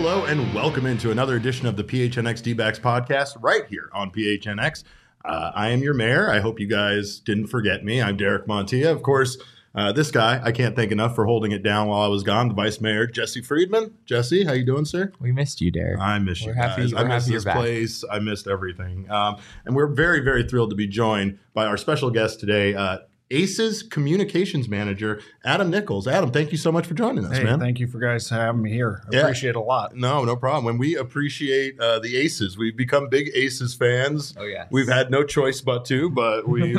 Hello and welcome into another edition of the PHNX D-backs podcast right here on PHNX. I am your mayor. I hope you guys didn't forget me. I'm Derek Montilla. Of course, this guy, I can't thank enough for holding it down while I was gone, the Vice Mayor, Jesse Friedman. Jesse, how you doing, sir? We missed you, Derek. I miss you guys. I missed this place. I missed everything. And we're very, very thrilled to be joined by our special guest today, Aces Communications Manager, Adam Nichols. Adam, thank you so much for joining us, man. Thank you for guys having me here. I appreciate it a lot. No problem. And we appreciate the Aces. We've become big Aces fans. Oh, yeah. We've had no choice but to, but we've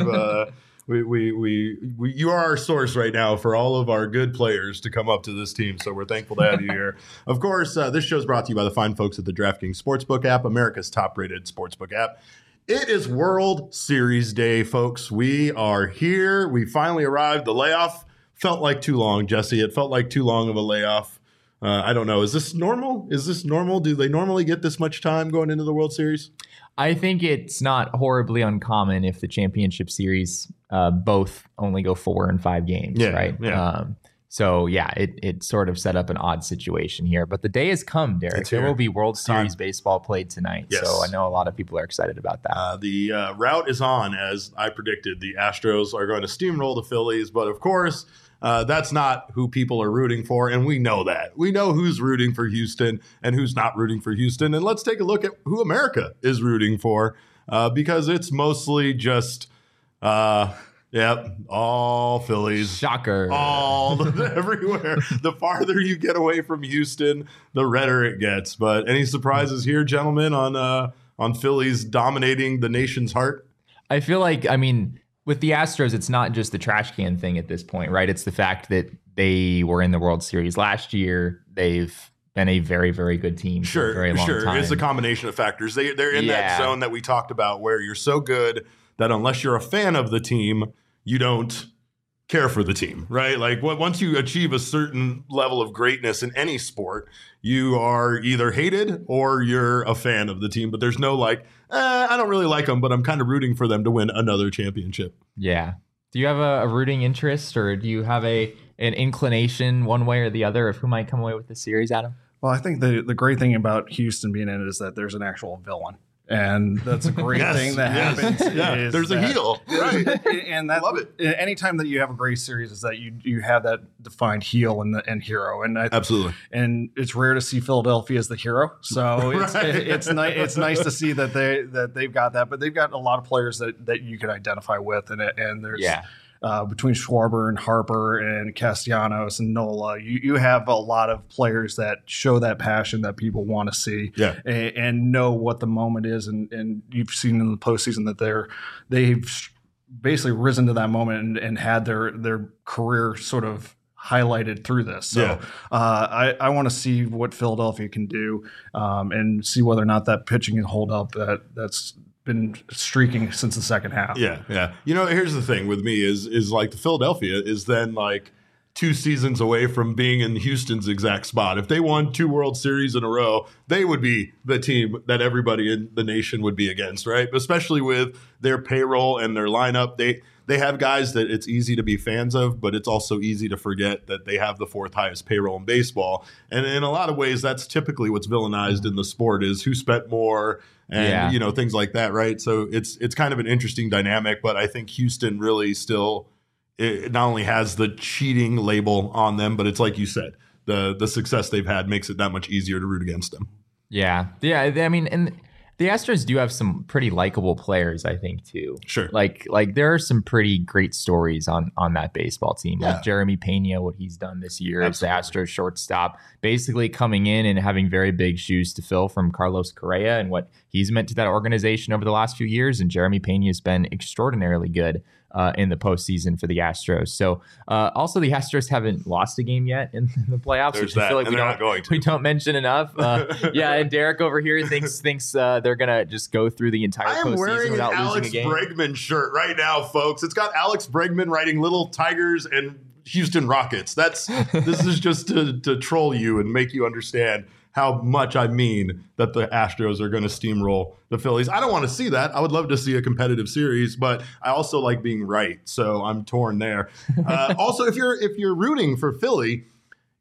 you are our source right now for all of our good players to come up to this team. So we're thankful to have you here. Of course, this show is brought to you by the fine folks at the DraftKings Sportsbook app, America's top-rated sportsbook app. It is World Series Day, folks. We are here. We finally arrived. The layoff felt like too long, Jesse. It felt like too long of a layoff. I don't know. Is this normal? Do they normally get this much time going into the World Series? I think it's not horribly uncommon if the championship series both only go 4 and 5 games, right? Yeah. So, it sort of set up an odd situation here. But the day has come, Derek. There will be World Series baseball played tonight. Yes. So I know a lot of people are excited about that. The route is on, as I predicted. The Astros are going to steamroll the Phillies. But, of course, that's not who people are rooting for. And we know that. We know who's rooting for Houston and who's not rooting for Houston. And let's take a look at who America is rooting for, because it's mostly just all Phillies. Shocker. Everywhere. The farther you get away from Houston, the redder it gets. But any surprises here, gentlemen, on Phillies dominating the nation's heart? I feel like, with the Astros, it's not just the trash can thing at this point, right? It's the fact that they were in the World Series last year. They've been a very, very good team for a very long time. It's a combination of factors. They're in that zone that we talked about where you're so good that unless you're a fan of the team, you don't care for the team, right? Like once you achieve a certain level of greatness in any sport, you are either hated or you're a fan of the team. But there's no I don't really like them, but I'm kind of rooting for them to win another championship. Yeah. Do you have a rooting interest, or do you have an inclination one way or the other of who might come away with the series, Adam? Well, I think the great thing about Houston being in it is that there's an actual villain. And that's a great thing that happens. There's a heel, right? And that, love it. Anytime that you have a great series, is that you have that defined heel and hero, and absolutely. And it's rare to see Philadelphia as the hero, so it's nice to see that they've got that, but they've got a lot of players that you can identify with, and there's. Between Schwarber and Harper and Castellanos and Nola, you have a lot of players that show that passion that people want to see and know what the moment is. And you've seen in the postseason that they've basically risen to that moment and had their career sort of highlighted through this. So I want to see what Philadelphia can do and see whether or not that pitching can hold up. That's been streaking since the second half. Yeah. Here's the thing with me is like the Philadelphia is then like 2 seasons away from being in Houston's exact spot. If they won 2 World Series in a row, they would be the team that everybody in the nation would be against, right? Especially with their payroll and their lineup. They have guys that it's easy to be fans of, but it's also easy to forget that they have the 4th highest payroll in baseball. And in a lot of ways, that's typically what's villainized in the sport is who spent more and, things like that, right? So it's kind of an interesting dynamic, but I think Houston really still it not only has the cheating label on them, but it's like you said, the success they've had makes it that much easier to root against them. Yeah. And the Astros do have some pretty likable players, I think, too. Sure. Like there are some pretty great stories on that baseball team. Yeah. Like Jeremy Pena, what he's done this year as the Astros shortstop, basically coming in and having very big shoes to fill from Carlos Correa and what he's meant to that organization over the last few years. And Jeremy Pena has been extraordinarily good in the postseason for the Astros. So also the Astros haven't lost a game yet in the playoffs, There's which I feel like we don't mention enough. And Derek over here thinks they're gonna just go through the entire postseason without losing a game. I am wearing an Alex Bregman shirt right now, folks. It's got Alex Bregman writing Little Tigers and Houston Rockets. This is just to troll you and make you understand how much I mean that the Astros are going to steamroll the Phillies. I don't want to see that. I would love to see a competitive series, but I also like being right, so I'm torn there. Also, if you're rooting for Philly,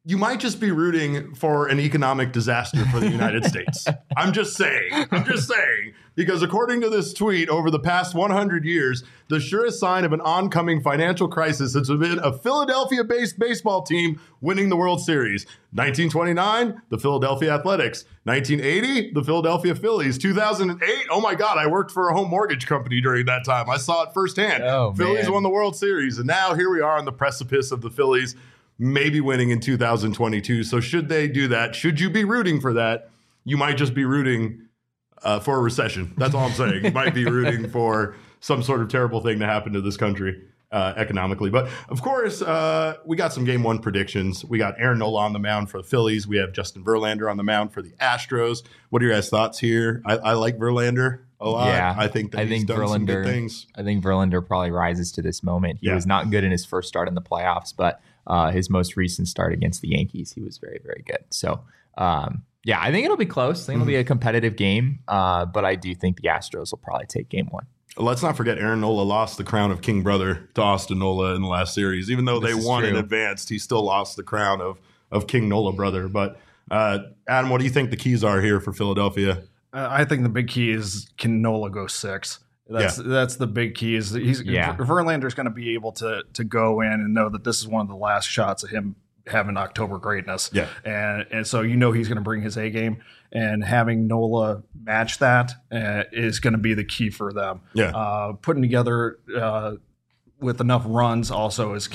you might just be rooting for an economic disaster for the United States. I'm just saying, because according to this tweet, over the past 100 years, the surest sign of an oncoming financial crisis has been a Philadelphia-based baseball team winning the World Series. 1929, the Philadelphia Athletics. 1980, the Philadelphia Phillies. 2008, oh my God, I worked for a home mortgage company during that time. I saw it firsthand. Phillies won the World Series, and now here we are on the precipice of the Phillies maybe winning in 2022. So should they do that? Should you be rooting for that? You might just be rooting for a recession. That's all I'm saying. You might be rooting for some sort of terrible thing to happen to this country economically. But of course, we got some game one predictions. We got Aaron Nola on the mound for the Phillies. We have Justin Verlander on the mound for the Astros. What are your guys' thoughts here? I like Verlander a lot. Yeah, I think he's done some good things. I think Verlander probably rises to this moment. He was not good in his first start in the playoffs, but his most recent start against the Yankees, he was very, very good. So, I think it'll be close. I think it'll be a competitive game, but I do think the Astros will probably take game one. Let's not forget Aaron Nola lost the crown of King Brother to Austin Nola in the last series. Even though they won and advanced, he still lost the crown of King Nola Brother. But Adam, what do you think the keys are here for Philadelphia? I think the big key is, can Nola go 6? That's the big key. Verlander's going to be able to go in and know that this is one of the last shots of him having October greatness. Yeah. And so he's going to bring his A game, and having Nola match that is going to be the key for them. Yeah. Putting together with enough runs also with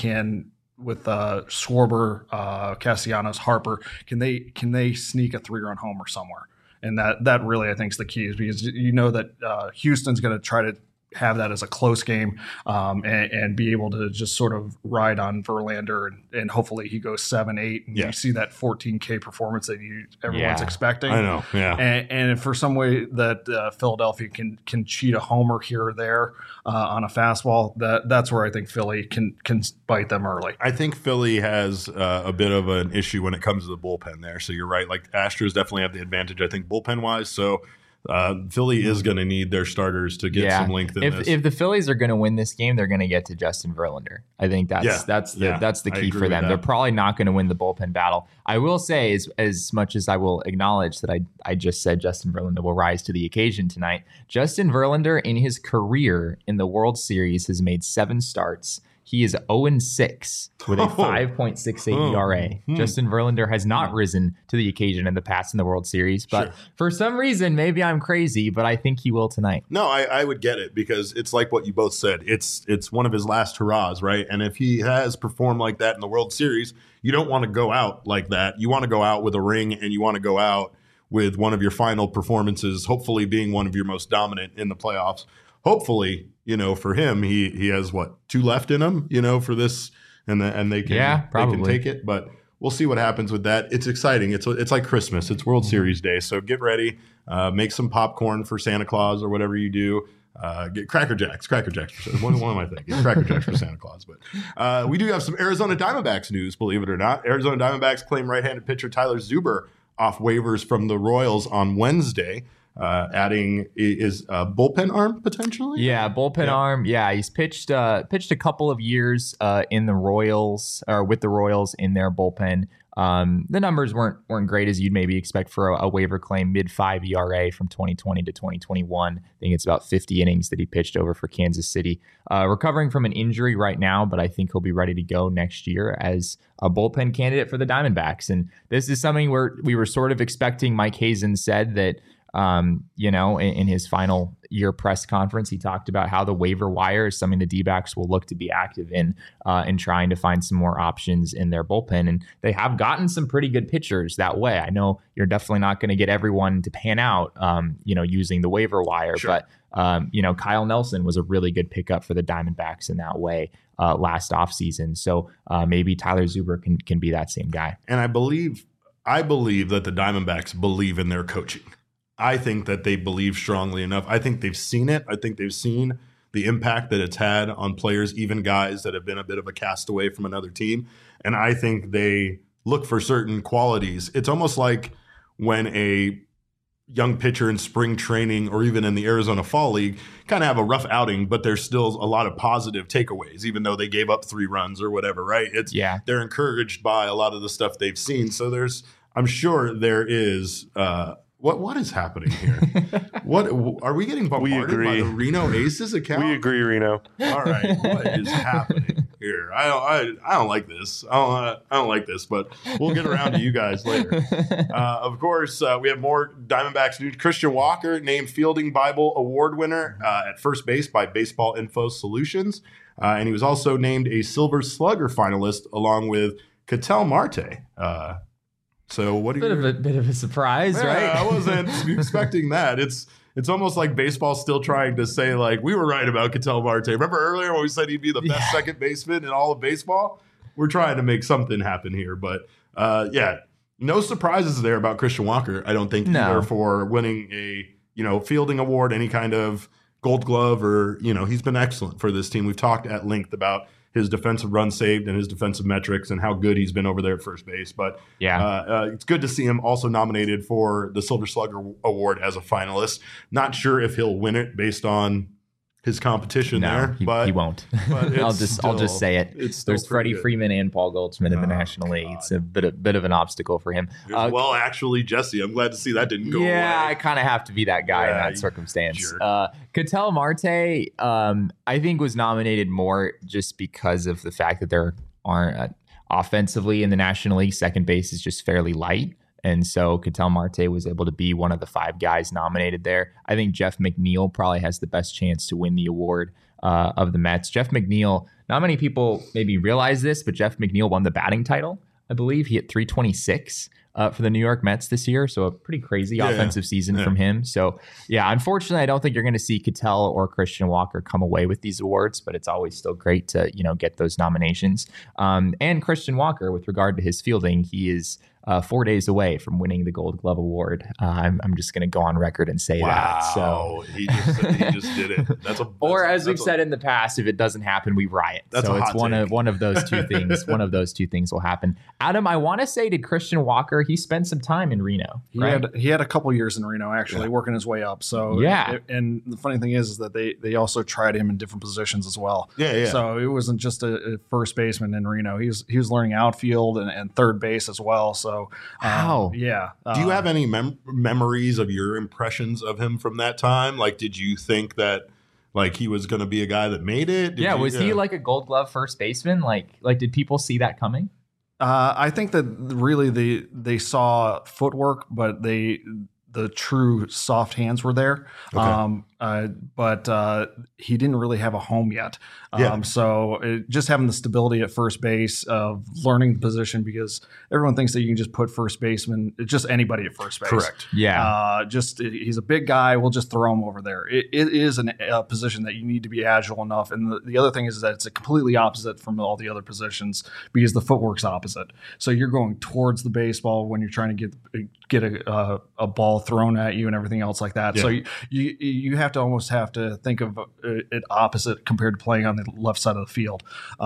Schwarber, Castellanos, Harper, can they sneak a 3-run homer somewhere? And that really, I think, is the key, is because you know that Houston's going to try to have that as a close game and be able to just sort of ride on Verlander, and hopefully he goes 7-8 and you see that 14K performance that everyone's expecting. I know, And if for some way that Philadelphia can cheat a homer here or there on a fastball, that's where I think Philly can bite them early. I think Philly has a bit of an issue when it comes to the bullpen there. So you're right. Like, Astros definitely have the advantage, I think, bullpen-wise. So Philly is going to need their starters to get some length in this. If the Phillies are going to win this game, they're going to get to Justin Verlander. I think that's the key for them. They're probably not going to win the bullpen battle. I will say, as much as I will acknowledge that I just said Justin Verlander will rise to the occasion tonight, Justin Verlander in his career in the World Series has made 7 starts. He is 0-6 with a 5.68 ERA. Justin Verlander has not risen to the occasion in the past in the World Series, but for some reason, maybe I'm crazy, but I think he will tonight. No, I would get it, because it's like what you both said. It's one of his last hurrahs, right? And if he has performed like that in the World Series, you don't want to go out like that. You want to go out with a ring, and you want to go out with one of your final performances, hopefully being one of your most dominant in the playoffs. Hopefully, for him, he has 2 left in him, for this, and they can take it. But we'll see what happens with that. It's exciting. It's like Christmas. It's World Series Day, so get ready. Make some popcorn for Santa Claus or whatever you do. Get Cracker Jacks. What am I thinking? Cracker Jacks for Santa Claus. But we do have some Arizona Diamondbacks news, believe it or not. Arizona Diamondbacks claim right-handed pitcher Tyler Zuber off waivers from the Royals on Wednesday. Adding is a bullpen arm potentially. Bullpen arm. Yeah, he's pitched a couple of years in the Royals, or with the Royals in their bullpen. The numbers weren't great as you'd maybe expect for a waiver claim. Mid-5 ERA from 2020 to 2021. I think it's about 50 innings that he pitched over for Kansas City. Recovering from an injury right now, but I think he'll be ready to go next year as a bullpen candidate for the Diamondbacks. And this is something where we were sort of expecting. Mike Hazen said that in his final year press conference, he talked about how the waiver wire is something the D-backs will look to be active in trying to find some more options in their bullpen. And they have gotten some pretty good pitchers that way. I know you're definitely not going to get everyone to pan out, using the waiver wire, but Kyle Nelson was a really good pickup for the Diamondbacks in that way last offseason. So maybe Tyler Zuber can be that same guy. And I believe that the Diamondbacks believe in their coaching. I think that they believe strongly enough. I think they've seen it. I think they've seen the impact that it's had on players, even guys that have been a bit of a castaway from another team. And I think they look for certain qualities. It's almost like when a young pitcher in spring training or even in the Arizona Fall League kind of have a rough outing, but there's still a lot of positive takeaways, even though they gave up 3 runs or whatever, right? They're encouraged by a lot of the stuff they've seen. So I'm sure there is, what is happening here? What are we getting bombarded by the Reno Aces account? We agree, Reno. All right, what is happening here? I don't like this. I don't like this, but we'll get around to you guys later. Of course, we have more Diamondbacks news. Christian Walker named Fielding Bible Award winner at first base by Baseball Info Solutions, and he was also named a Silver Slugger finalist along with Ketel Marte. So what do you? Bit of a surprise, right? I wasn't expecting that. It's almost like baseball's still trying to say, like, we were right about Ketel Marte. Remember earlier when we said he'd be the best second baseman in all of baseball? We're trying to make something happen here. But, no surprises there about Christian Walker, I don't think, either for winning a, fielding award, any kind of Gold Glove, or, he's been excellent for this team. We've talked at length about his defensive run saved and his defensive metrics and how good he's been over there at first base. But it's good to see him also nominated for the Silver Slugger Award as a finalist. Not sure if he'll win it based on his competition there, but he won't. But I'll just say it. There's Freddie Freeman and Paul Goldschmidt in the National League. It's a bit of an obstacle for him. Well, actually, Jesse, I'm glad to see that didn't go away. Yeah, I kind of have to be that guy in that circumstance. Ketel Marte, I think, was nominated more just because of the fact that there aren't offensively in the National League, second base is just fairly light. And so Ketel Marte was able to be one of the 5 guys nominated there. I think Jeff McNeil probably has the best chance to win the award of the Mets. Jeff McNeil, not many people maybe realize this, but Jeff McNeil won the batting title. I believe he hit 326 for the New York Mets this year. So a pretty crazy offensive season from him. So unfortunately, I don't think you're going to see Ketel or Christian Walker come away with these awards, but it's always still great to, get those nominations. And Christian Walker, with regard to his fielding, he is 4 days away from winning the Gold Glove Award. I'm just going to go on record and say that. So he just did it. Or as we've said in the past, if it doesn't happen, we riot. So it's one of those two things. One of those two things will happen. Adam, I want to say, did Christian Walker? He spent some time in Reno. He had a couple years in Reno, actually, working his way up. So and the funny thing is that they also tried him in different positions as well. So it wasn't just a first baseman in Reno. He was learning outfield and third base as well. So. Wow. Do you have any memories of your impressions of him from that time? Like, did you think that he was going to be a guy that made it? Was he like a Gold Glove first baseman? Like did people see that coming? I think that really they saw footwork, but the true soft hands were there. Okay. But he didn't really have a home yet. So just having the stability at first base of learning the position, because everyone thinks that you can just put first baseman, just anybody at first base. Correct. Yeah. He's a big guy. We'll just throw him over there. It is a position that you need to be agile enough. And the other thing is that it's a completely opposite from all the other positions because the footwork's opposite. So you're going towards the baseball when you're trying to get a ball thrown at you and everything else like that. Yeah. So you have to think of it opposite compared to playing on the left side of the field.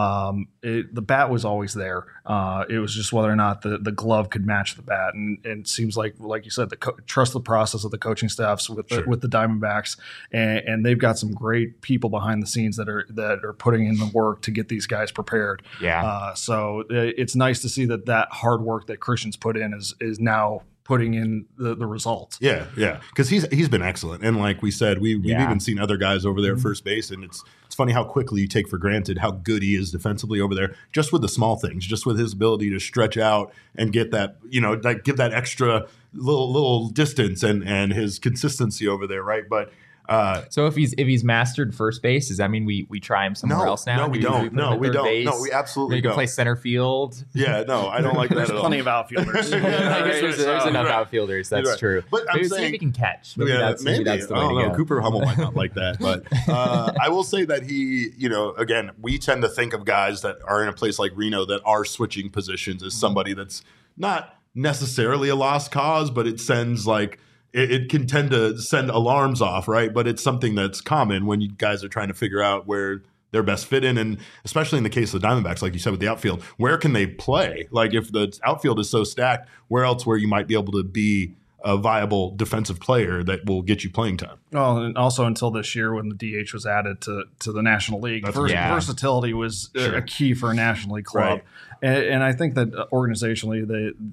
The bat was always there. It was just whether or not the glove could match the bat. And it seems like you said, trust the process of the coaching staffs with the Diamondbacks, and they've got some great people behind the scenes that are putting in the work to get these guys prepared. Yeah. So it's nice to see that hard work that Christian's put in is now putting in the results. Yeah. Because he's been excellent. And like we said, we've even seen other guys over there at first base, and it's funny how quickly you take for granted how good he is defensively over there, just with the small things, just with his ability to stretch out and get that, give that extra little distance and his consistency over there, right? But so if he's mastered first base, does that mean we try him somewhere else now? No, we don't. No, we don't. No, we absolutely don't. You can play center field. Yeah, no, I don't like that at all. There's plenty of outfielders. I guess there's enough outfielders. That's true. But I'm saying, see if he can catch. Maybe that's the way to go. Cooper Hummel might not like that, but I will say that he, again, we tend to think of guys that are in a place like Reno that are switching positions as somebody that's not necessarily a lost cause, but it sends it can tend to send alarms off, right? But it's something that's common when you guys are trying to figure out where their best fit in. And especially in the case of the Diamondbacks, like you said with the outfield, where can they play? Like if the outfield is so stacked, where else where you might be able to be a viable defensive player that will get you playing time. Well, and also until this year when the DH was added to the National League, versatility was a key for a National League club. Right. And I think that organizationally,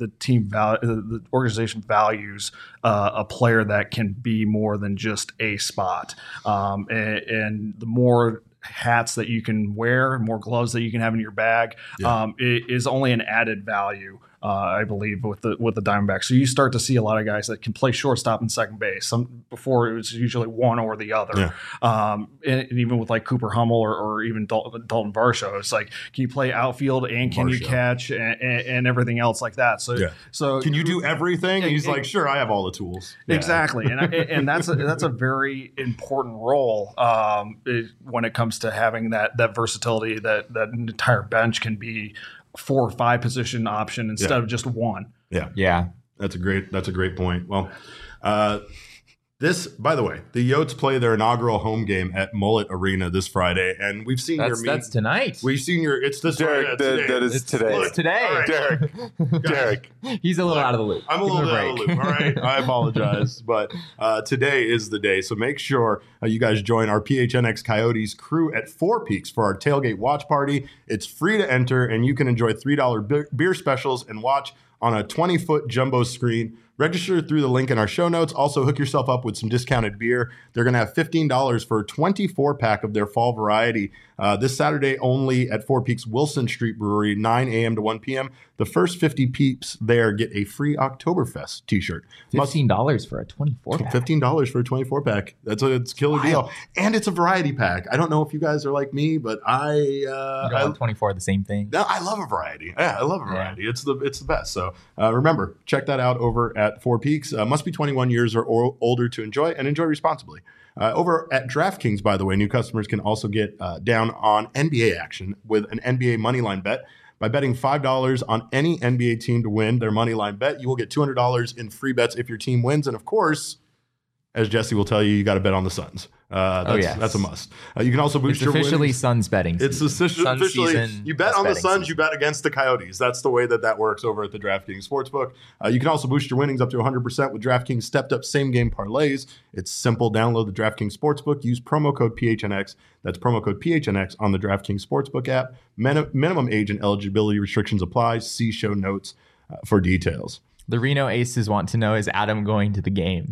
the organization values a player that can be more than just a spot. And the more hats that you can wear, more gloves that you can have in your bag, is only an added value. I believe with the Diamondbacks. So you start to see a lot of guys that can play shortstop and second base. Before it was usually one or the other. Yeah. And even with like Cooper Hummel or even Dalton Varsho, it's like, can you play outfield and can you catch and everything else like that? So can you do everything? And he's like, sure, I have all the tools. Exactly, and that's a very important role when it comes to having that versatility that an entire bench can be 4 or 5 position option instead of just one. Yeah. That's a great point. Well, this, by the way, the Yotes play their inaugural home game at Mullet Arena this Friday, and we've seen that's tonight. We've seen it's this Derek. That is today. It's today. Right. Derek. He's a little out of the loop. I'm a little out of the loop. All right, I apologize, but today is the day. So make sure you guys join our PHNX Coyotes crew at Four Peaks for our tailgate watch party. It's free to enter, and you can enjoy $3 beer specials and watch on a 20-foot jumbo screen. Register through the link in our show notes. Also, hook yourself up with some discounted beer. They're going to have $15 for a 24-pack of their fall variety this Saturday only at Four Peaks Wilson Street Brewery, 9 a.m. to 1 p.m. The first 50 peeps there get a free Oktoberfest t-shirt. $15 for a 24-pack. $15 for a 24-pack. It's a killer deal. And it's a variety pack. I don't know if you guys are like me, but I 24 the same thing. No, I love a variety. Yeah, I love a variety. Yeah. It's the best. So remember, check that out over at Four Peaks. Must be 21 years or older to enjoy, and enjoy responsibly. Over at DraftKings, by the way, new customers can also get down on NBA action with an NBA moneyline bet. By betting $5 on any NBA team to win their moneyline bet, you will get $200 in free bets if your team wins. And of course, as Jesse will tell you got to bet on the Suns. That's a must. You can also boost your winnings. It's officially Suns betting season. It's officially, you bet on the Suns, season. You bet against the Coyotes. That's the way that works over at the DraftKings Sportsbook. You can also boost your winnings up to 100% with DraftKings stepped up same game parlays. It's simple. Download the DraftKings Sportsbook. Use promo code PHNX. That's promo code PHNX on the DraftKings Sportsbook app. Minimum age and eligibility restrictions apply. See show notes for details. The Reno Aces want to know, is Adam going to the game?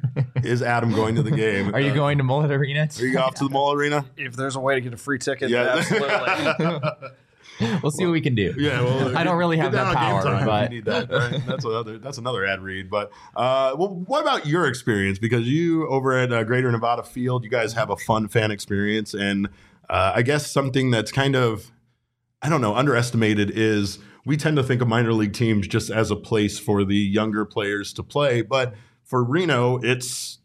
Is Adam going to the game? Are you going to Mullet Arena? Are you off to the Mullet Arena? If there's a way to get a free ticket, absolutely. We'll see what we can do. Yeah, well, I don't really have that power, but you need that. Right? That's another ad read. But what about your experience? Because you over at Greater Nevada Field, you guys have a fun fan experience, and I guess something that's kind of, I don't know, underestimated is we tend to think of minor league teams just as a place for the younger players to play, but for Reno, it's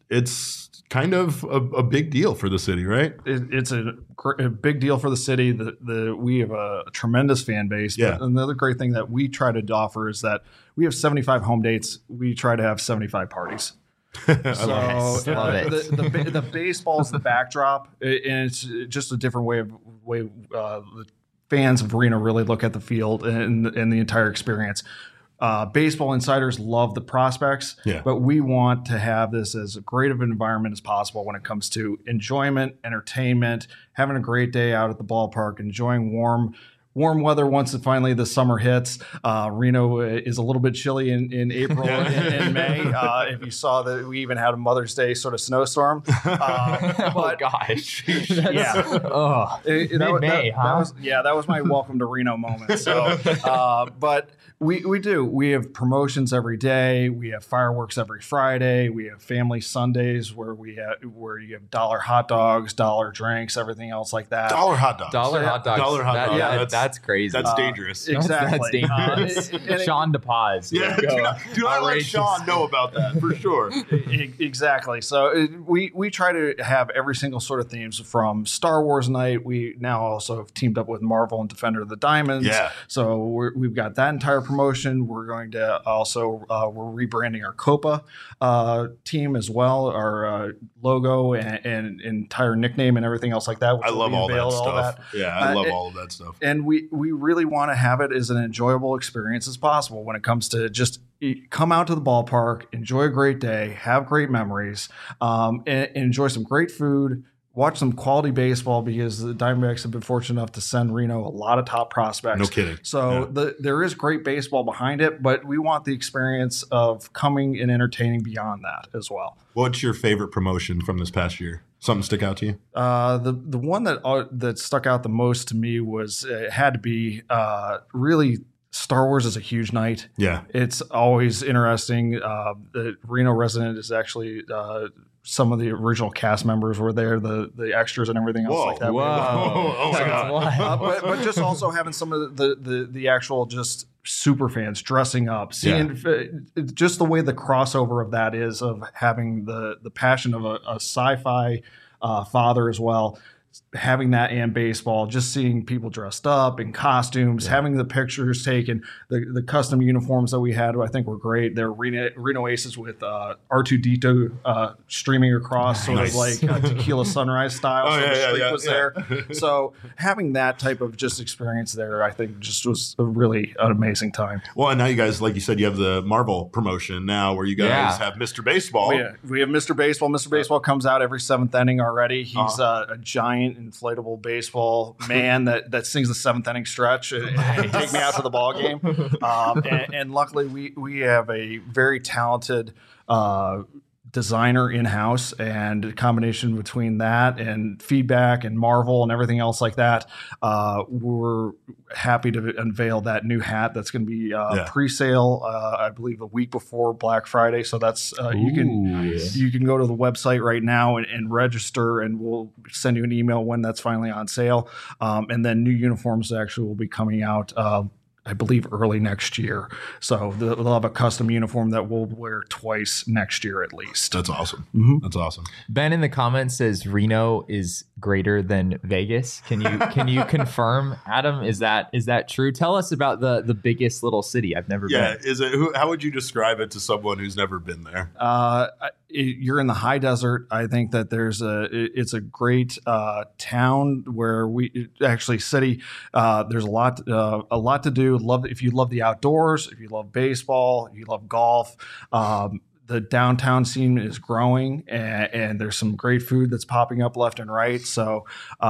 kind of a big deal for the city, right? It's a big deal for the city. We have a tremendous fan base. Yeah. But another great thing that we try to offer is that we have 75 home dates. We try to have 75 parties. Love it. The baseball is the backdrop, and it's just a different way the fans of Reno really look at the field and the entire experience. Baseball insiders love the prospects, but we want to have this as great of an environment as possible when it comes to enjoyment, entertainment, having a great day out at the ballpark, enjoying warm weather once finally the summer hits. Reno is a little bit chilly in April and May. If you saw that, we even had a Mother's Day sort of snowstorm. Oh gosh, Mid-May, huh? That was my welcome to Reno moment. So, but we have promotions every day. We have fireworks every Friday. We have family Sundays where you have dollar hot dogs, dollar drinks, everything else like that. Dollar hot dogs. Dollar hot dogs. That's crazy. That's dangerous. Exactly. That's dangerous. Sean DePaz. Yeah, do not let Sean know about that for sure. Exactly. So we try to have every single sort of themes from Star Wars night. We now also have teamed up with Marvel and Defender of the Diamonds. Yeah. So we've got that entire promotion. We're going to also we're rebranding our Copa team as well. Our logo and entire nickname and everything else like that. I love all that stuff. Yeah, I love all of that stuff. And we really want to have it as an enjoyable experience as possible when it comes to just come out to the ballpark, enjoy a great day, have great memories, and enjoy some great food, watch some quality baseball, because the Diamondbacks have been fortunate enough to send Reno a lot of top prospects. No kidding. So there is great baseball behind it, but we want the experience of coming and entertaining beyond that as well. What's your favorite promotion from this past year? Something stick out to you? The one that stuck out the most to me was it had to be really Star Wars is a huge night. Yeah. It's always interesting. The Reno resident is actually some of the original cast members were there, the extras and everything else like that. Whoa. Oh my God. But just also having some of the actual just super fans dressing up, seeing just the way the crossover of that is, of having the passion of a sci-fi father as well, having that and baseball, just seeing people dressed up in costumes, having the pictures taken, the custom uniforms that we had, I think were great. They're Reno Aces with R2-D2 streaming across, sort of like Tequila Sunrise style. There. So having that type of just experience there, I think just was really an amazing time. Well, and now you guys, like you said, you have the Marvel promotion now where you guys have Mr. Baseball. We have Mr. Baseball. Mr. Baseball comes out every seventh inning already. He's a giant inflatable baseball man that sings the seventh inning stretch and take me out to the ball game. And luckily we have a very talented designer in-house, and a combination between that and feedback and Marvel and everything else like that, we're happy to unveil that new hat that's going to be pre-sale I believe a week before Black Friday. So that's you can go to the website right now and register, and we'll send you an email when that's finally on sale, and then new uniforms actually will be coming out I believe early next year. So they'll have a custom uniform that we'll wear twice next year at least. That's awesome. Mm-hmm. That's awesome. Ben in the comments says Reno is greater than Vegas. Can you confirm, Adam? Is that true? Tell us about the biggest little city. I've never been. Is it? How would you describe it to someone who's never been there? You're in the high desert. I think that it's a great town where city. There's a lot to do. If you love the outdoors, if you love baseball, if you love golf. The downtown scene is growing, and there's some great food that's popping up left and right. So,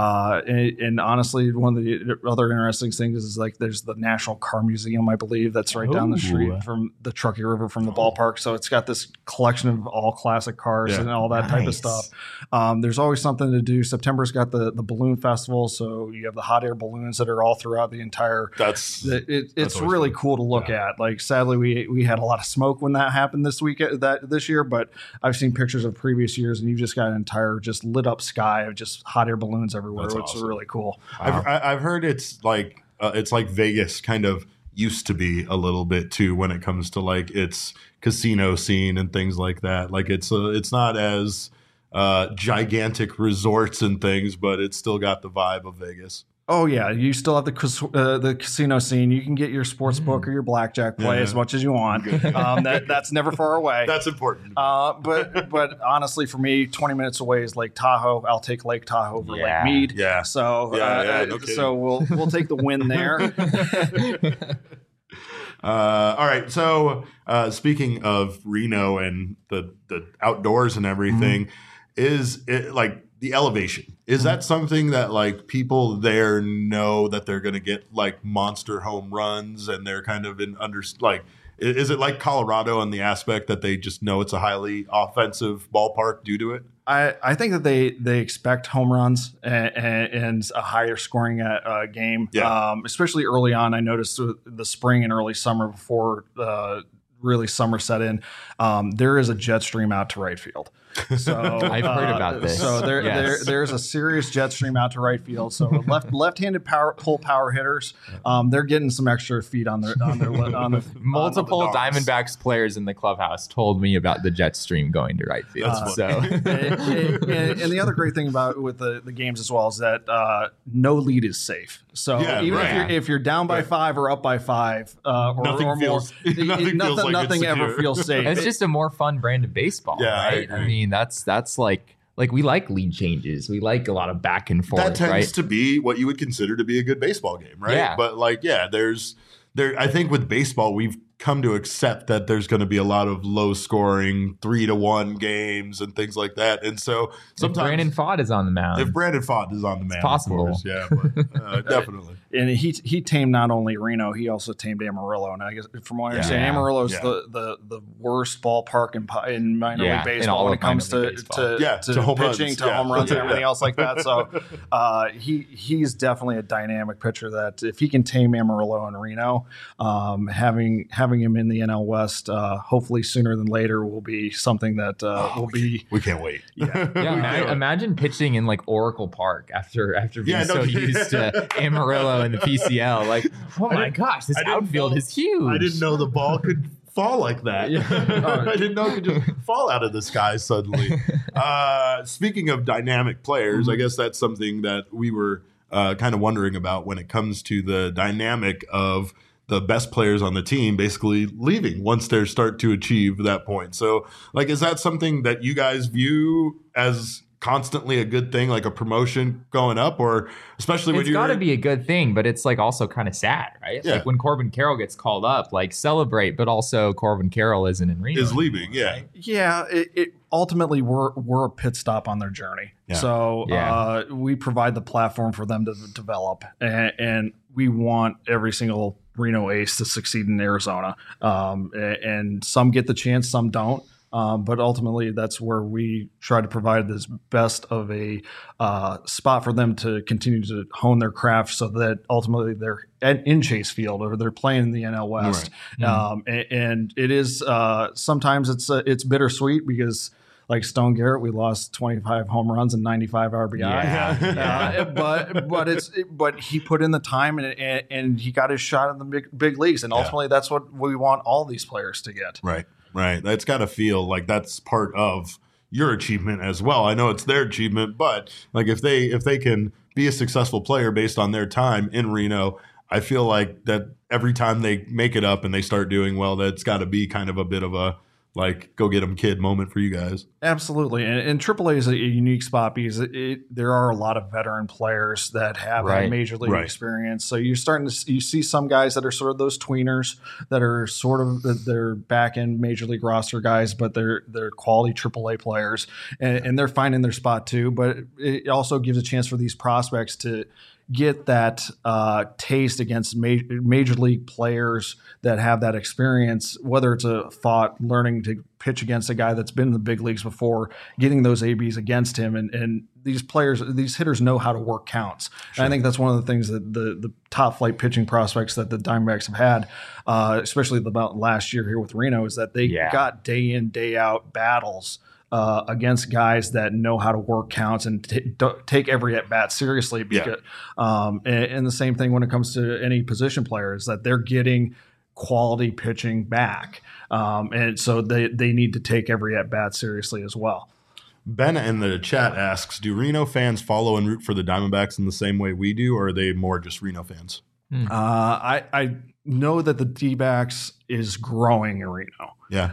and honestly, one of the other interesting things is like there's the National Car Museum, I believe, that's right down the street from the Truckee River from the ballpark. So it's got this collection of all classic cars and all that type of stuff. There's always something to do. September's got the balloon festival, so you have the hot air balloons that are all throughout the entire. It's really cool to look at. Like, sadly, we had a lot of smoke when that happened this year, but I've seen pictures of previous years, and you've just got an entire just lit up sky of just hot air balloons everywhere, which is really cool. I've heard it's like Vegas kind of used to be a little bit too when it comes to like its casino scene and things like that. Like it's not as gigantic resorts and things, but it's still got the vibe of Vegas. Oh yeah, you still have the casino scene. You can get your sports book or your blackjack play as much as you want. That's never far away. That's important. But honestly, for me, 20 minutes away is Lake Tahoe. I'll take Lake Tahoe over Lake Mead. Yeah. So so we'll take the win there. All right. So speaking of Reno and the outdoors and everything, is it like the elevation? Is that something that like people there know that they're going to get like monster home runs, and they're kind of is it like Colorado in the aspect that they just know it's a highly offensive ballpark due to it? I think that they expect home runs and a higher scoring game, especially early on. I noticed the spring and early summer before really summer set in, there is a jet stream out to right field. So I've heard about this. So there's a serious jet stream out to right field. So left-handed pull power hitters, they're getting some extra feet on their multiple Diamondbacks players in the clubhouse told me about the jet stream going to right field. And the other great thing about with the games as well is that no lead is safe. So if you're down by 5 or up by 5 or more, nothing ever feels safe. It's just a more fun brand of baseball, right? I mean, that's like like we like lead changes. We like a lot of back and forth. That tends right? to be what you would consider to be a good baseball game, right? Yeah. But like, I think with baseball, we've come to accept that there's going to be a lot of low scoring 3-1 games and things like that. And so sometimes if Brandon Pfaadt is on the mound, it's possible. of course, yeah, but, definitely. And he tamed not only Reno, he also tamed Amarillo. And I guess from what I understand, Amarillo is the worst ballpark in minor league baseball when it comes to home pitching, runs. to home runs and everything else like that. So he's definitely a dynamic pitcher that if he can tame Amarillo and Reno, having him in the NL West, hopefully sooner than later, will be something that will be. We can't wait. Imagine pitching in like Oracle Park after being used to Amarillo and the PCL. Like, oh my gosh, this outfield is huge. I didn't know the ball could fall like that. I didn't know it could just fall out of the sky suddenly. Speaking of dynamic players, I guess that's something that we were kind of wondering about when it comes to the dynamic of the best players on the team basically leaving once they start to achieve that point. So, like, is that something that you guys view as constantly a good thing, like a promotion going up, or especially when it's got to be a good thing, but it's like also kind of sad, right? Yeah. Like when Corbin Carroll gets called up, like celebrate, but also Corbin Carroll isn't in Reno. Is leaving, yeah. Yeah, it ultimately we're a pit stop on their journey. Yeah. So we provide the platform for them to develop, and we want every single Reno ace to succeed in Arizona. And some get the chance, some don't. But ultimately, that's where we try to provide this best of a spot for them to continue to hone their craft, so that ultimately they're in Chase Field or they're playing in the NL West. Right. And it is sometimes it's bittersweet because, like Stone Garrett, we lost 25 home runs and 95 RBI. But he put in the time and he got his shot in the big leagues, and ultimately that's what we want all these players to get. Right. That's got to feel like that's part of your achievement as well. I know it's their achievement, but like if they can be a successful player based on their time in Reno, I feel like that every time they make it up and they start doing well, that's got to be kind of a bit of a like go get them kid moment for you guys. Absolutely. And AAA is a unique spot because there are a lot of veteran players that have that major league experience. So you're starting to you see some guys that are sort of those tweeners that are sort of they're back end major league roster guys, but they're quality AAA players and they're finding their spot too. But it also gives a chance for these prospects to get that taste against major league players that have that experience, whether it's a thought learning to pitch against a guy that's been in the big leagues before, getting those ABs against him. And these players, these hitters know how to work counts. Sure. And I think that's one of the things that the top flight pitching prospects that the Diamondbacks have had, especially about last year here with Reno, is that they got day in, day out battles against guys that know how to work counts and take every at bat seriously. Because, and the same thing when it comes to any position players, that they're getting quality pitching back, and so they need to take every at bat seriously as well. Ben in the chat asks, do Reno fans follow and root for the Diamondbacks in the same way we do, or are they more just Reno fans? I know that the D-backs is growing in Reno. Yeah.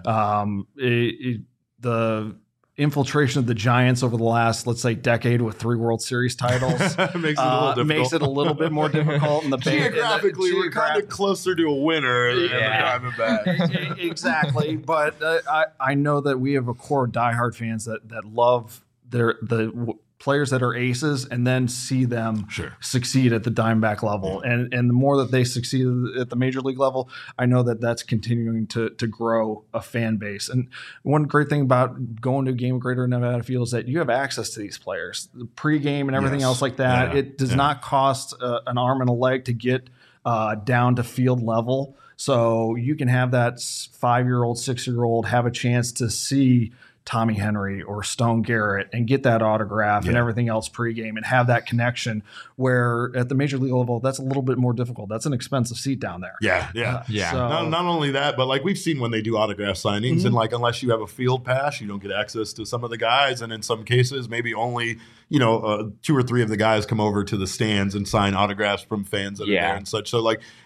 The infiltration of the Giants over the last, let's say, decade with 3 World Series titles makes it a little bit more difficult. In the geographically, we're kind of closer to a winner than the Diamondbacks. Exactly, but I know that we have a core of diehard fans that love the players that are aces and then see them succeed at the Diamondback level. And the more that they succeed at the major league level, I know that that's continuing to grow a fan base. And one great thing about going to a game of Greater Nevada Field is that you have access to these players, the pregame and everything else like that. Yeah. It does not cost an arm and a leg to get down to field level. So you can have that 5-year-old, 6-year-old have a chance to see Tommy Henry or Stone Garrett and get that autograph and everything else pregame and have that connection, where at the major league level, that's a little bit more difficult. That's an expensive seat down there. So, not only that, but like we've seen when they do autograph signings and like, unless you have a field pass, you don't get access to some of the guys. And in some cases, maybe only, 2 or 3 of the guys come over to the stands and sign autographs from fans that are there and such. So like,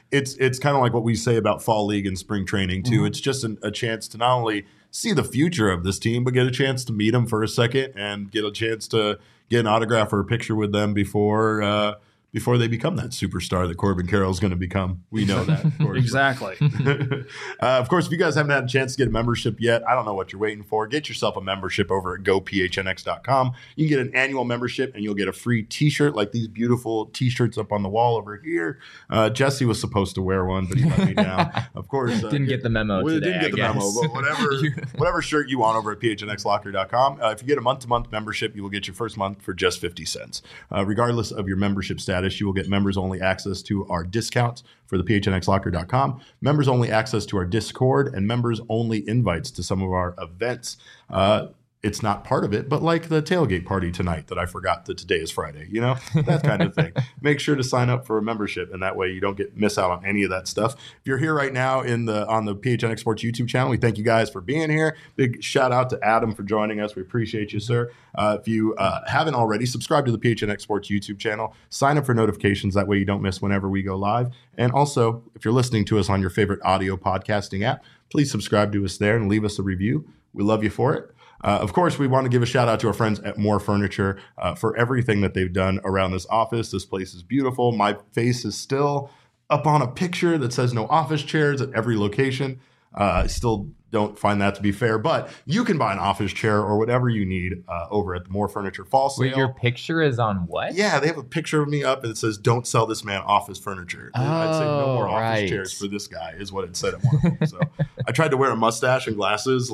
it's kind of like what we say about fall league and spring training too. It's just a chance to not only see the future of this team, but get a chance to meet them for a second and get a chance to get an autograph or a picture with them before they become that superstar that Corbin Carroll is going to become. We know that. Of course. Exactly. Of course, if you guys haven't had a chance to get a membership yet, I don't know what you're waiting for. Get yourself a membership over at gophnx.com. You can get an annual membership and you'll get a free t-shirt like these beautiful t-shirts up on the wall over here. Jesse was supposed to wear one, but he let me down. Of course. Didn't get the memo today, didn't get the memo, but whatever shirt you want over at phnxlocker.com. If you get a month-to-month membership, you will get your first month for just 50 cents. Regardless of your membership status, you will get members-only access to our discounts for the phnxlocker.com, members-only access to our Discord, and members-only invites to some of our events. It's not part of it, but like the tailgate party tonight that I forgot that today is Friday, that kind of thing. Make sure to sign up for a membership, and that way you don't miss out on any of that stuff. If you're here right now on the PHNX Sports YouTube channel, we thank you guys for being here. Big shout out to Adam for joining us. We appreciate you, sir. If you haven't already, subscribe to the PHNX Sports YouTube channel. Sign up for notifications. That way you don't miss whenever we go live. And also, if you're listening to us on your favorite audio podcasting app, please subscribe to us there and leave us a review. We love you for it. Of course, we want to give a shout out to our friends at More Furniture for everything that they've done around this office. This place is beautiful. My face is still up on a picture that says no office chairs at every location. I still don't find that to be fair, but you can buy an office chair or whatever you need over at the More Furniture Fall Sale. Wait, your picture is on what? Yeah, they have a picture of me up and it says, "Don't sell this man office furniture." I'd say no more office chairs for this guy is what it said at one point. So I tried to wear a mustache and glasses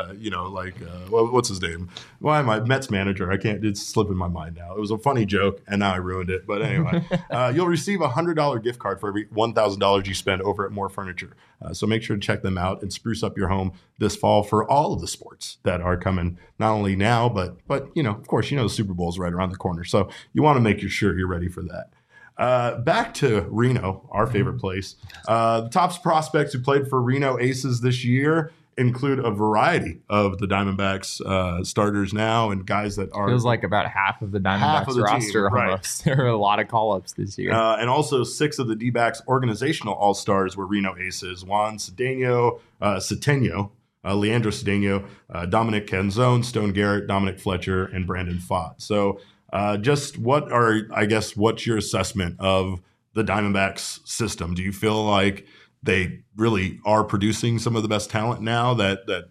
what's his name? Why am I Mets manager? It's slipping my mind now. It was a funny joke and now I ruined it. But anyway, you'll receive a $100 gift card for every $1,000 you spend over at More Furniture. So make sure to check them out and spruce up your home this fall for all of the sports that are coming, not only now, but of course, the Super Bowl is right around the corner. So you want to make sure you're ready for that. Back to Reno, our favorite place. The top prospects who played for Reno Aces this year include a variety of the Diamondbacks starters now and guys that are... Feels like about half of the Diamondbacks roster team, almost. Right. There are a lot of call-ups this year. And also 6 of the D-backs organizational all-stars were Reno Aces. Juan Cedeno, Leandro Cedeno, Dominic Canzone, Stone Garrett, Dominic Fletcher, and Brandon Pfaadt. So what's your assessment of the Diamondbacks system? Do you feel like they really are producing some of the best talent now that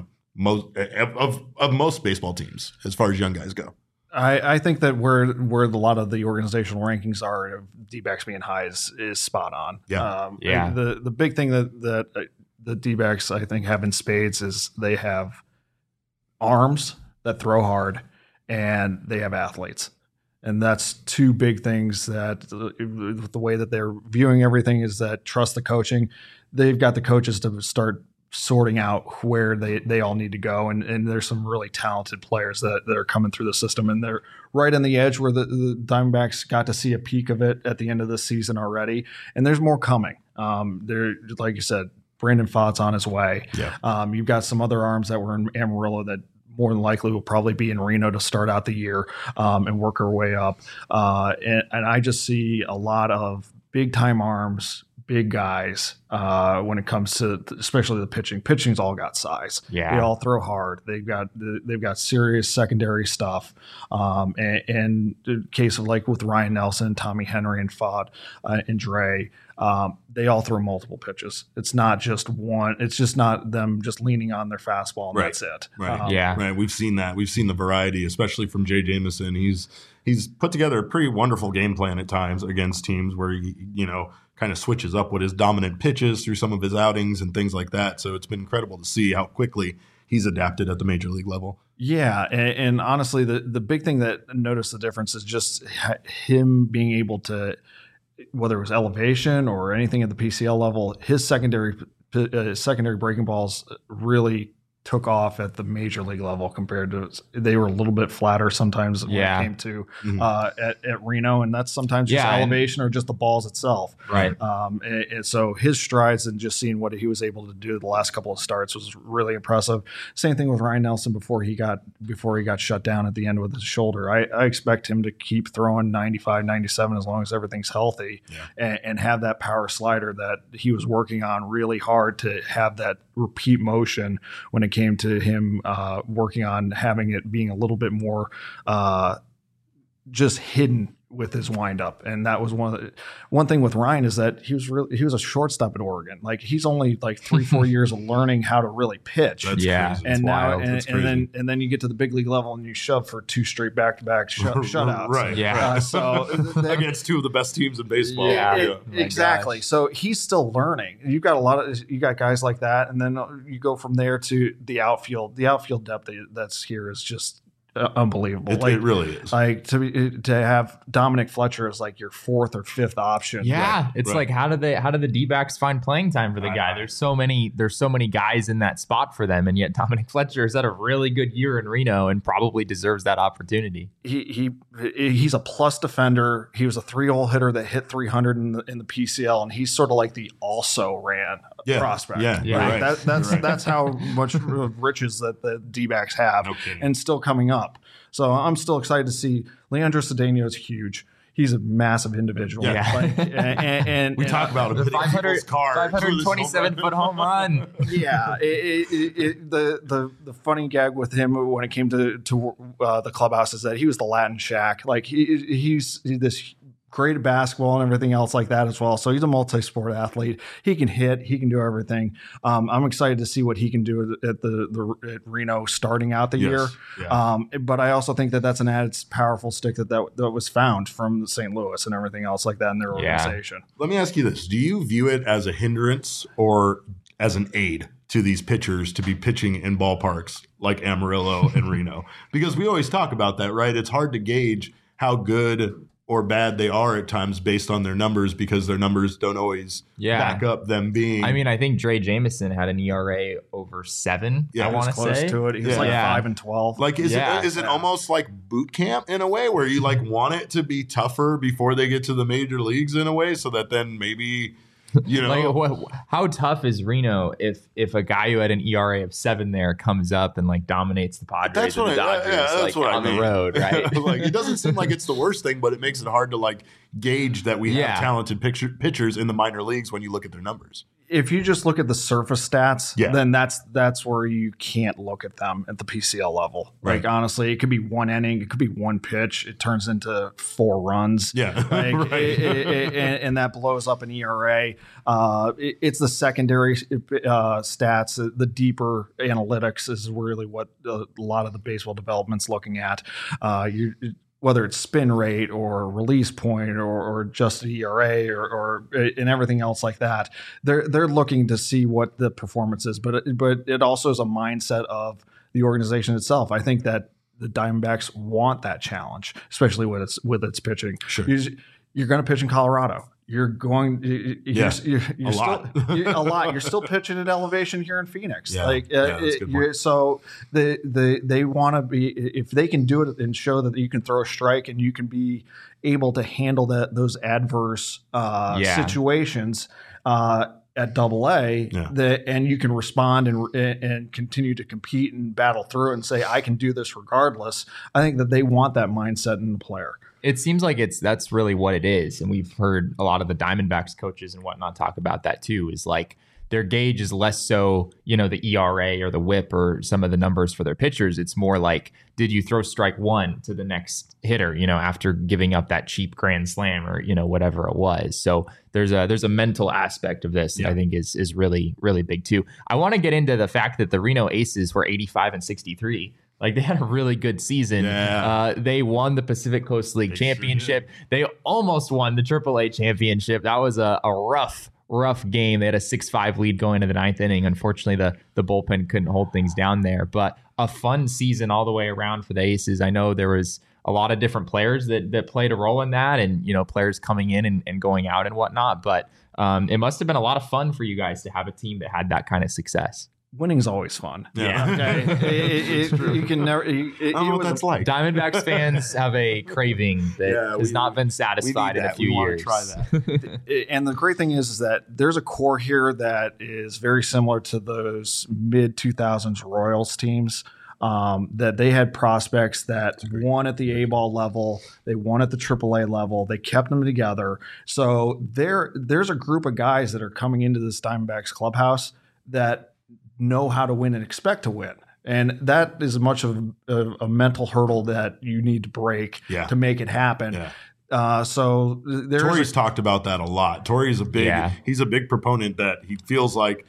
most baseball teams as far as young guys go? I think that where a lot of the organizational rankings are of D-backs being high is spot on. Yeah. The big thing that the D-backs I think have in spades is they have arms that throw hard and they have athletes. And that's 2 big things that the way that they're viewing everything is that trust the coaching. They've got the coaches to start sorting out where they all need to go. And there's some really talented players that are coming through the system. And they're right on the edge where the Diamondbacks got to see a peak of it at the end of this season already. And there's more coming. They're, like you said, Brandon Pfaadt's on his way. Yeah. You've got some other arms that were in Amarillo that more than likely will probably be in Reno to start out the year and work our way up. And I just see a lot of big-time arms, big guys when it comes to especially the pitching. Pitching's all got size. Yeah. They all throw hard. They've got serious secondary stuff. And the case of like with Ryan Nelson, Tommy Henry, and Pfaadt and Dre, they all throw multiple pitches. It's not just one. It's just not them just leaning on their fastball and that's it. Right. Right. We've seen that. We've seen the variety, especially from Jay Jameson. He's put together a pretty wonderful game plan at times against teams where he, kind of switches up what his dominant pitches through some of his outings and things like that. So it's been incredible to see how quickly he's adapted at the major league level. Yeah, and honestly, the big thing that noticed the difference is just him being able to, whether it was elevation or anything at the PCL level, his secondary breaking balls really took off at the major league level compared to they were a little bit flatter sometimes when it came to at Reno, and that's sometimes just elevation or just the balls itself. Right. And so his strides and just seeing what he was able to do the last couple of starts was really impressive. Same thing with Ryan Nelson before he got shut down at the end with his shoulder. I expect him to keep throwing 95, 97 as long as everything's healthy and have that power slider that he was working on really hard to have that repeat motion when it came to him working on having it being a little bit more just hidden with his windup. And that was one thing with Ryan is that he was a shortstop at Oregon. Like he's only like 3-4 years of learning how to really pitch. That's crazy. And now and then you get to the big league level and you shove for 2 straight back-to-back shutouts. Right. Yeah. So against 2 of the best teams in baseball. Exactly. So he's still learning. You got guys like that, and then you go from there to the outfield. The outfield depth that's here is just unbelievable. It really is. Like to have Dominic Fletcher as like your 4th or 5th option. Yeah, it's like how do the D-backs find playing time for the guy? There's so many guys in that spot for them, and yet Dominic Fletcher has had a really good year in Reno and probably deserves that opportunity. He's a plus defender. He was a 3-hole hitter that hit 300 in the PCL, and he's sort of like the also ran prospect. Yeah, right? That's how much riches that the D-backs have, and still coming up. So I'm still excited to see Leandro Cedeno is huge. He's a massive individual. Yeah. And we talk about him. 527-foot home run. Yeah. The funny gag with him when it came to the clubhouse is that he was the Latin Shaq. Like he's this great at basketball and everything else like that as well. So he's a multi-sport athlete. He can hit. He can do everything. I'm excited to see what he can do at at Reno starting out the year. Yeah. But I also think that that's an added powerful stick that was found from St. Louis and everything else like that in their organization. Let me ask you this. Do you view it as a hindrance or as an aid to these pitchers to be pitching in ballparks like Amarillo and Reno? Because we always talk about that, right? It's hard to gauge how good or bad they are at times based on their numbers because their numbers don't always back up them being. I mean, I think Dre Jameson had an ERA over 7. I want to say to it. He was like 5 and 12. Like, is it almost like boot camp in a way where you like want it to be tougher before they get to the major leagues in a way, so that then maybe. Like, how tough is Reno if a guy who had an ERA of 7 there comes up and like dominates the Padres and the Dodgers on the road, right? Like it doesn't seem like it's the worst thing, but it makes it hard to like gauge that we have talented pitchers in the minor leagues when you look at their numbers. If you just look at the surface stats, then that's where you can't look at them at the PCL level. Right. Like honestly, it could be 1 inning, it could be 1 pitch, it turns into 4 runs. Yeah, like, and that blows up an ERA. It's the secondary stats, the deeper analytics is really what a lot of the baseball development's looking at. Whether it's spin rate or release point or just ERA or and everything else like that, they're looking to see what the performance is. But it also is a mindset of the organization itself. I think that the Diamondbacks want that challenge, especially with its pitching. Sure. You're going to pitch in Colorado. You're going. You're a lot. You're still pitching at elevation here in Phoenix. Yeah. That's a good point. So they want to be, if they can do it and show that you can throw a strike and you can be able to handle those adverse situations at Double-A, and you can respond and continue to compete and battle through and say I can do this regardless. I think that they want that mindset in the player. It seems like that's really what it is. And we've heard a lot of the Diamondbacks coaches and whatnot talk about that too, is like their gauge is less so, the ERA or the whip or some of the numbers for their pitchers. It's more like, did you throw strike 1 to the next hitter, after giving up that cheap grand slam or, whatever it was. So there's a mental aspect of this that I think is really, really big too. I want to get into the fact that the Reno Aces were 85 and 63. Like they had a really good season. Yeah. They won the Pacific Coast League Championship. Sure they almost won the AAA championship. That was a rough game. They had a 6-5 lead going to the 9th inning. Unfortunately, the bullpen couldn't hold things down there. But a fun season all the way around for the Aces. I know there was a lot of different players that played a role in that, and players coming in and going out and whatnot. But it must have been a lot of fun for you guys to have a team that had that kind of success. winning's always fun. Yeah. Okay. You can never. I don't know what that's like. Diamondbacks fans have a craving that has not been satisfied in a few years. Try that. And the great thing is that there's a core here that is very similar to those mid 2000s Royals teams. That they had prospects that won at the A-ball level, they won at the AAA level, they kept them together. So there's a group of guys that are coming into this Diamondbacks clubhouse that know how to win and expect to win. And that is much of a mental hurdle that you need to break to make it happen. Yeah. So Torrey's talked about that a lot. Torrey's he's a big proponent that he feels like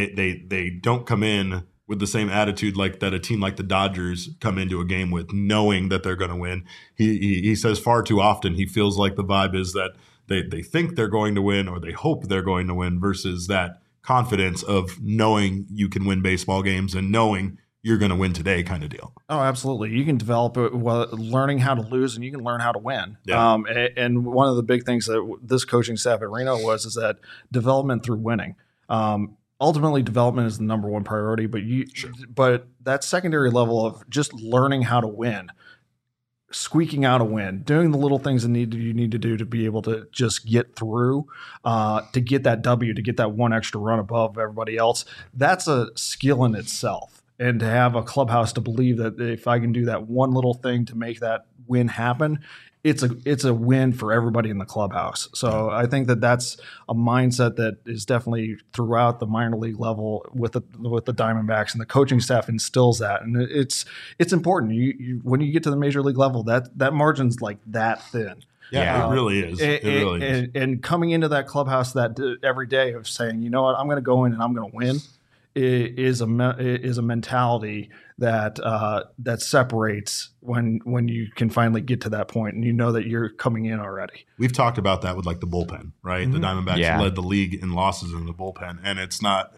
they don't come in with the same attitude like that a team like the Dodgers come into a game with, knowing that they're going to win. He says far too often he feels like the vibe is that they think they're going to win or they hope they're going to win versus that confidence of knowing you can win baseball games and knowing you're going to win today kind of deal. Oh, absolutely. You can develop it while learning how to lose, and you can learn how to win. Yeah. And one of the big things that this coaching staff at Reno is that development through winning. Ultimately, development is the number one priority, but that secondary level of just learning how to win, squeaking out a win, doing the little things you need to do to be able to just get through, to get that W, to get that one extra run above everybody else. That's a skill in itself. And to have a clubhouse to believe that if I can do that one little thing to make that win happen, it's a win for everybody in the clubhouse. So I think that's a mindset that is definitely throughout the minor league level with the Diamondbacks, and the coaching staff instills that. And it's important. You when you get to the major league level, that margin's like that thin. Yeah, it really is. It really is. And coming into that clubhouse that every day of saying, you know what, I'm going to go in and I'm going to win, is a mentality that separates when you can finally get to that point and you know that you're coming in already. We've talked about that with like the bullpen, right? Mm-hmm. The Diamondbacks led the league in losses in the bullpen, and it's not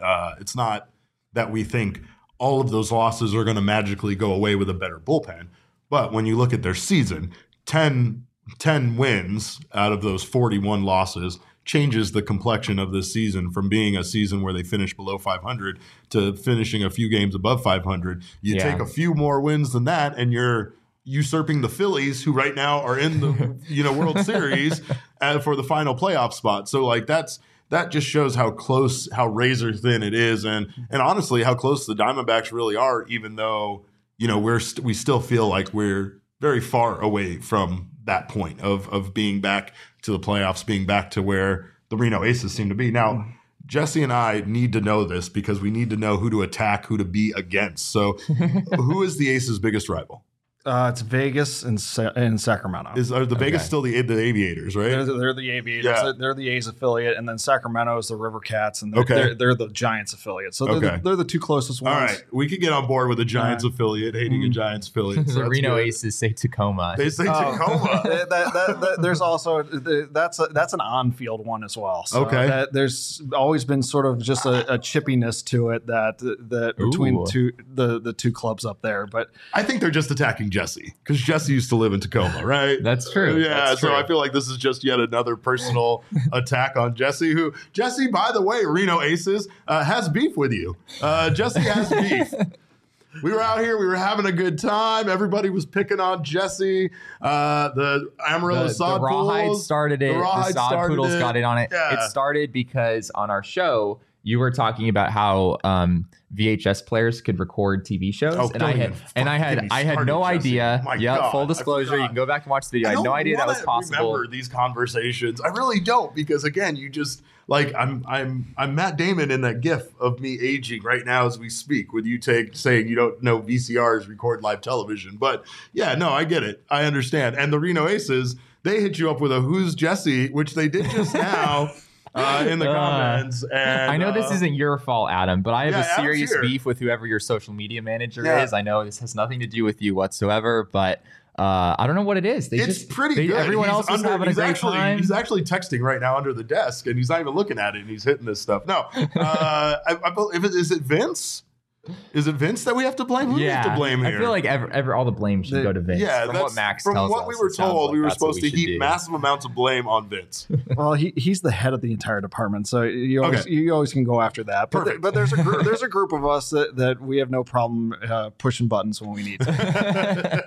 that we think all of those losses are going to magically go away with a better bullpen. But when you look at their season, 10 wins out of those 41 losses changes the complexion of this season from being a season where they finish below 500 to finishing a few games above 500. You take a few more wins than that, and you're usurping the Phillies, who right now are in the World Series for the final playoff spot. So like that just shows how close, how razor thin it is, and honestly how close the Diamondbacks really are. Even though we still feel like we're very far away from that point of being back to the playoffs, being back to where the Reno Aces seem to be. Now, Jesse and I need to know this because we need to know who to attack, who to be against. So who is the Aces' biggest rival? It's Vegas and Sacramento. Are the Vegas still the Aviators, right? They're the Aviators. Yeah. They're the A's affiliate, and then Sacramento is the River Cats, and they're the Giants affiliate. So they're the two closest ones. All right, we could get on board with a Giants affiliate, hating a Giants affiliate. So the Reno Aces say Tacoma. They say Tacoma. There's also that's an on-field one as well. So there's always been sort of just a chippiness to it that between the two clubs up there. But I think they're just attacking Jesse, because Jesse used to live in Tacoma, right? That's true. Yeah, that's true. So I feel like this is just yet another personal attack on Jesse, Jesse, by the way, Reno Aces, has beef with you. Jesse has beef. We were out here. We were having a good time. Everybody was picking on Jesse. The Amarillo Sod the Rawhide Poodles started it. The Sod Poodles got in on it. Yeah. It started because on our show, you were talking about how VHS players could record TV shows, and I had no idea. Yeah, full disclosure, you can go back and watch the video. I had no idea that was possible. Remember these conversations? I really don't, because again, you just like I'm Matt Damon in that GIF of me aging right now as we speak, with you saying you don't know VCRs record live television. But yeah, no, I get it. I understand. And the Reno Aces, they hit you up with a "Who's Jesse," which they did just now. In the comments. And, I know this isn't your fault, Adam, but I have a serious beef with whoever your social media manager is. I know this has nothing to do with you whatsoever, but I don't know what it is. It's pretty good. Everyone else is having a great time. He's actually texting right now under the desk, and he's not even looking at it, and he's hitting this stuff. No. Is it Vince? Is it Vince that we have to blame? Who do we have to blame here? I feel like all the blame should go to Vince. Yeah, from what Max from tells what us, we were told, we were supposed to heap do. massive amounts of blame on Vince. Well, he's the head of the entire department, so you always can go after that. But there's a group of us that we have no problem pushing buttons when we need to.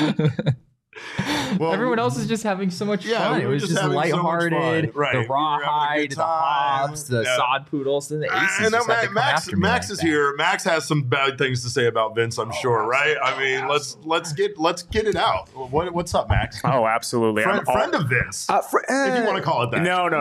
Well, everyone else is just having so much fun. It was just lighthearted. Right. The rawhide, the hops, the sod poodles, and the aces. And Max is here. Max has some bad things to say about Vince, I'm sure, right? I mean, let's get it out. What's up, Max? Oh, absolutely. Friend of Vince, if you want to call it that. No.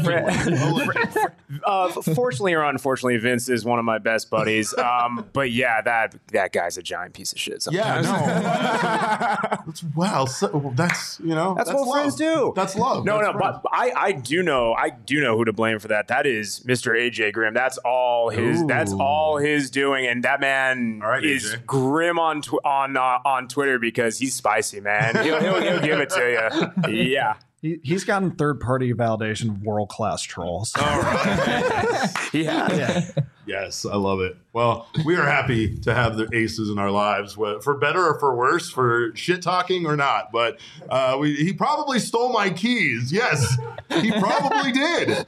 Fortunately or unfortunately, Vince is one of my best buddies. But yeah, that guy's a giant piece of shit sometimes. Yeah, no. Wow. So, that's what love. friends do. That's love. But I do know who to blame for that. That is Mr. AJ Grimm. That's all his. Ooh. That's all his doing, and that man is grim on Twitter because he's spicy, man. He'll give it to you. Yeah. He's gotten third-party validation of world-class trolls. All right. Yeah. Yes, I love it. Well, we are happy to have the aces in our lives, for better or for worse, for shit talking or not. But he probably stole my keys. Yes, he probably did.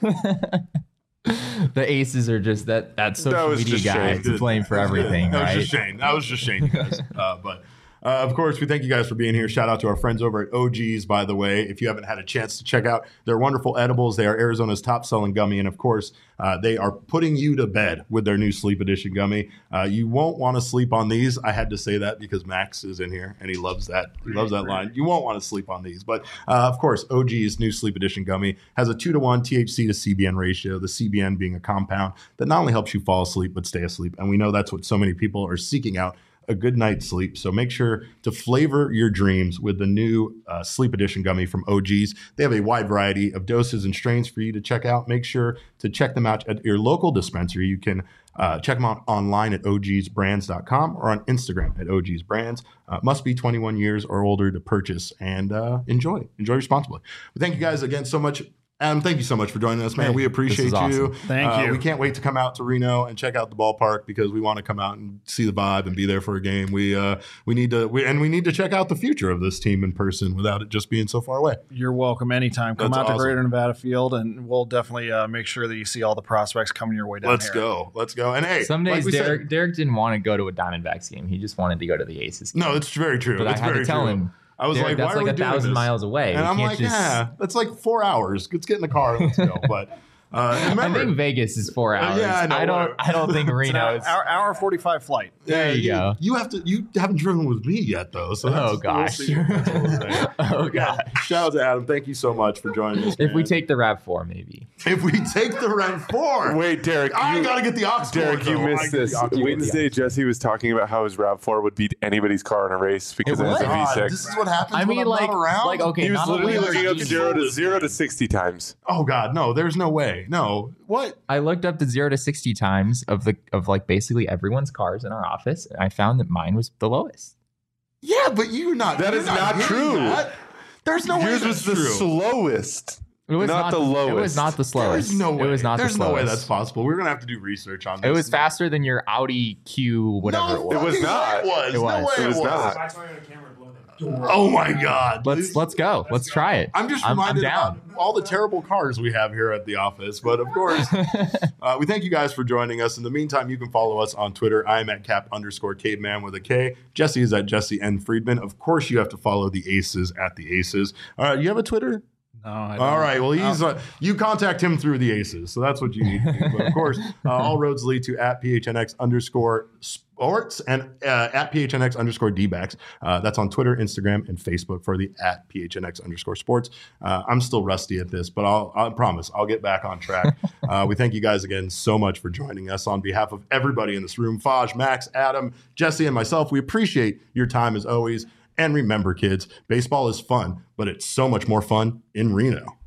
The aces are just that social media guy to blame for everything. That was just Shane, you guys. Of course, we thank you guys for being here. Shout out to our friends over at OG's, by the way. If you haven't had a chance to check out their wonderful edibles, they are Arizona's top-selling gummy. And, of course, they are putting you to bed with their new Sleep Edition gummy. You won't want to sleep on these. I had to say that because Max is in here, and he loves that. He loves that line. You won't want to sleep on these. But, of course, OG's new Sleep Edition gummy has a 2-to-1 THC to CBN ratio, the CBN being a compound that not only helps you fall asleep but stay asleep. And we know that's what so many people are seeking out, a good night's sleep. So make sure to flavor your dreams with the new Sleep Edition gummy from OG's. They have a wide variety of doses and strains for you to check out. Make sure to check them out at your local dispensary. You can check them out online at ogsbrands.com or on Instagram at ogsbrands. Must be 21 years or older to purchase, and enjoy responsibly. But thank you guys again so much. Adam, thank you so much for joining us, man. Hey, we appreciate you. Awesome. Thank you. We can't wait to come out to Reno and check out the ballpark because we want to come out and see the vibe and be there for a game. We need to check out the future of this team in person without it just being so far away. You're welcome anytime. Come That's out to awesome. Greater Nevada Field, and we'll definitely make sure that you see all the prospects coming your way down Let's go. And hey, some days Derek didn't want to go to a Diamondbacks game. He just wanted to go to the Aces game. No, it's very true. But I had to tell him. I was Derek, like, that's why are we like doing 1,000 this? miles away. And I'm like, that's like 4 hours. Let's get in the car and let's go. But remember, I think Vegas is 4 hours. Yeah, I don't think Reno is. Hour 45 flight. There you go. You haven't driven with me yet, though. So oh gosh. Oh god. Shout out to Adam. Thank you so much for joining us. If we take the RAV4, maybe. If we take the RAV4. Wait, Derek. I gotta get the aux cord. Derek, you missed this. Wednesday, Jesse was talking about how his RAV4 would beat anybody's car in a race because it has a V6. This is what happens I mean, when I'm not around? like, okay, He was literally looking up just 0 to 60 times. Oh god, no, there's no way. No. What? I looked up the 0 to 60 times of like basically everyone's cars in our office, and I found that mine was the lowest. Yeah, but you're not. That is not true. That. There's no way Yours was the slowest. It was not the lowest. It was not the slowest. There's no way. It was not There's the slowest. no way that's possible. We're gonna have to do research on this. It was faster than your Audi Q, whatever it was. It was not. It was. It was. No way It was not. Oh my god. Let's go. Let's try it. I'm just reminded of all the terrible cars we have here at the office. But of course, we thank you guys for joining us. In the meantime, you can follow us on Twitter. I'm at cap_caveman with a K. Jesse is at Jesse N. Friedman. Of course, you have to follow the Aces at the Aces. You have a Twitter? No, I don't. All right. Well, he's you contact him through the Aces, so that's what you need to do. But of course, all roads lead to at @PHNX_sports and at @PHNX_DBacks. That's on Twitter, Instagram, and Facebook for the at @PHNX_sports. I'm still rusty at this, but I promise I'll get back on track. We thank you guys again so much for joining us on behalf of everybody in this room, Faj, Max, Adam, Jesse, and myself. We appreciate your time as always. And remember, kids, baseball is fun, but it's so much more fun in Reno.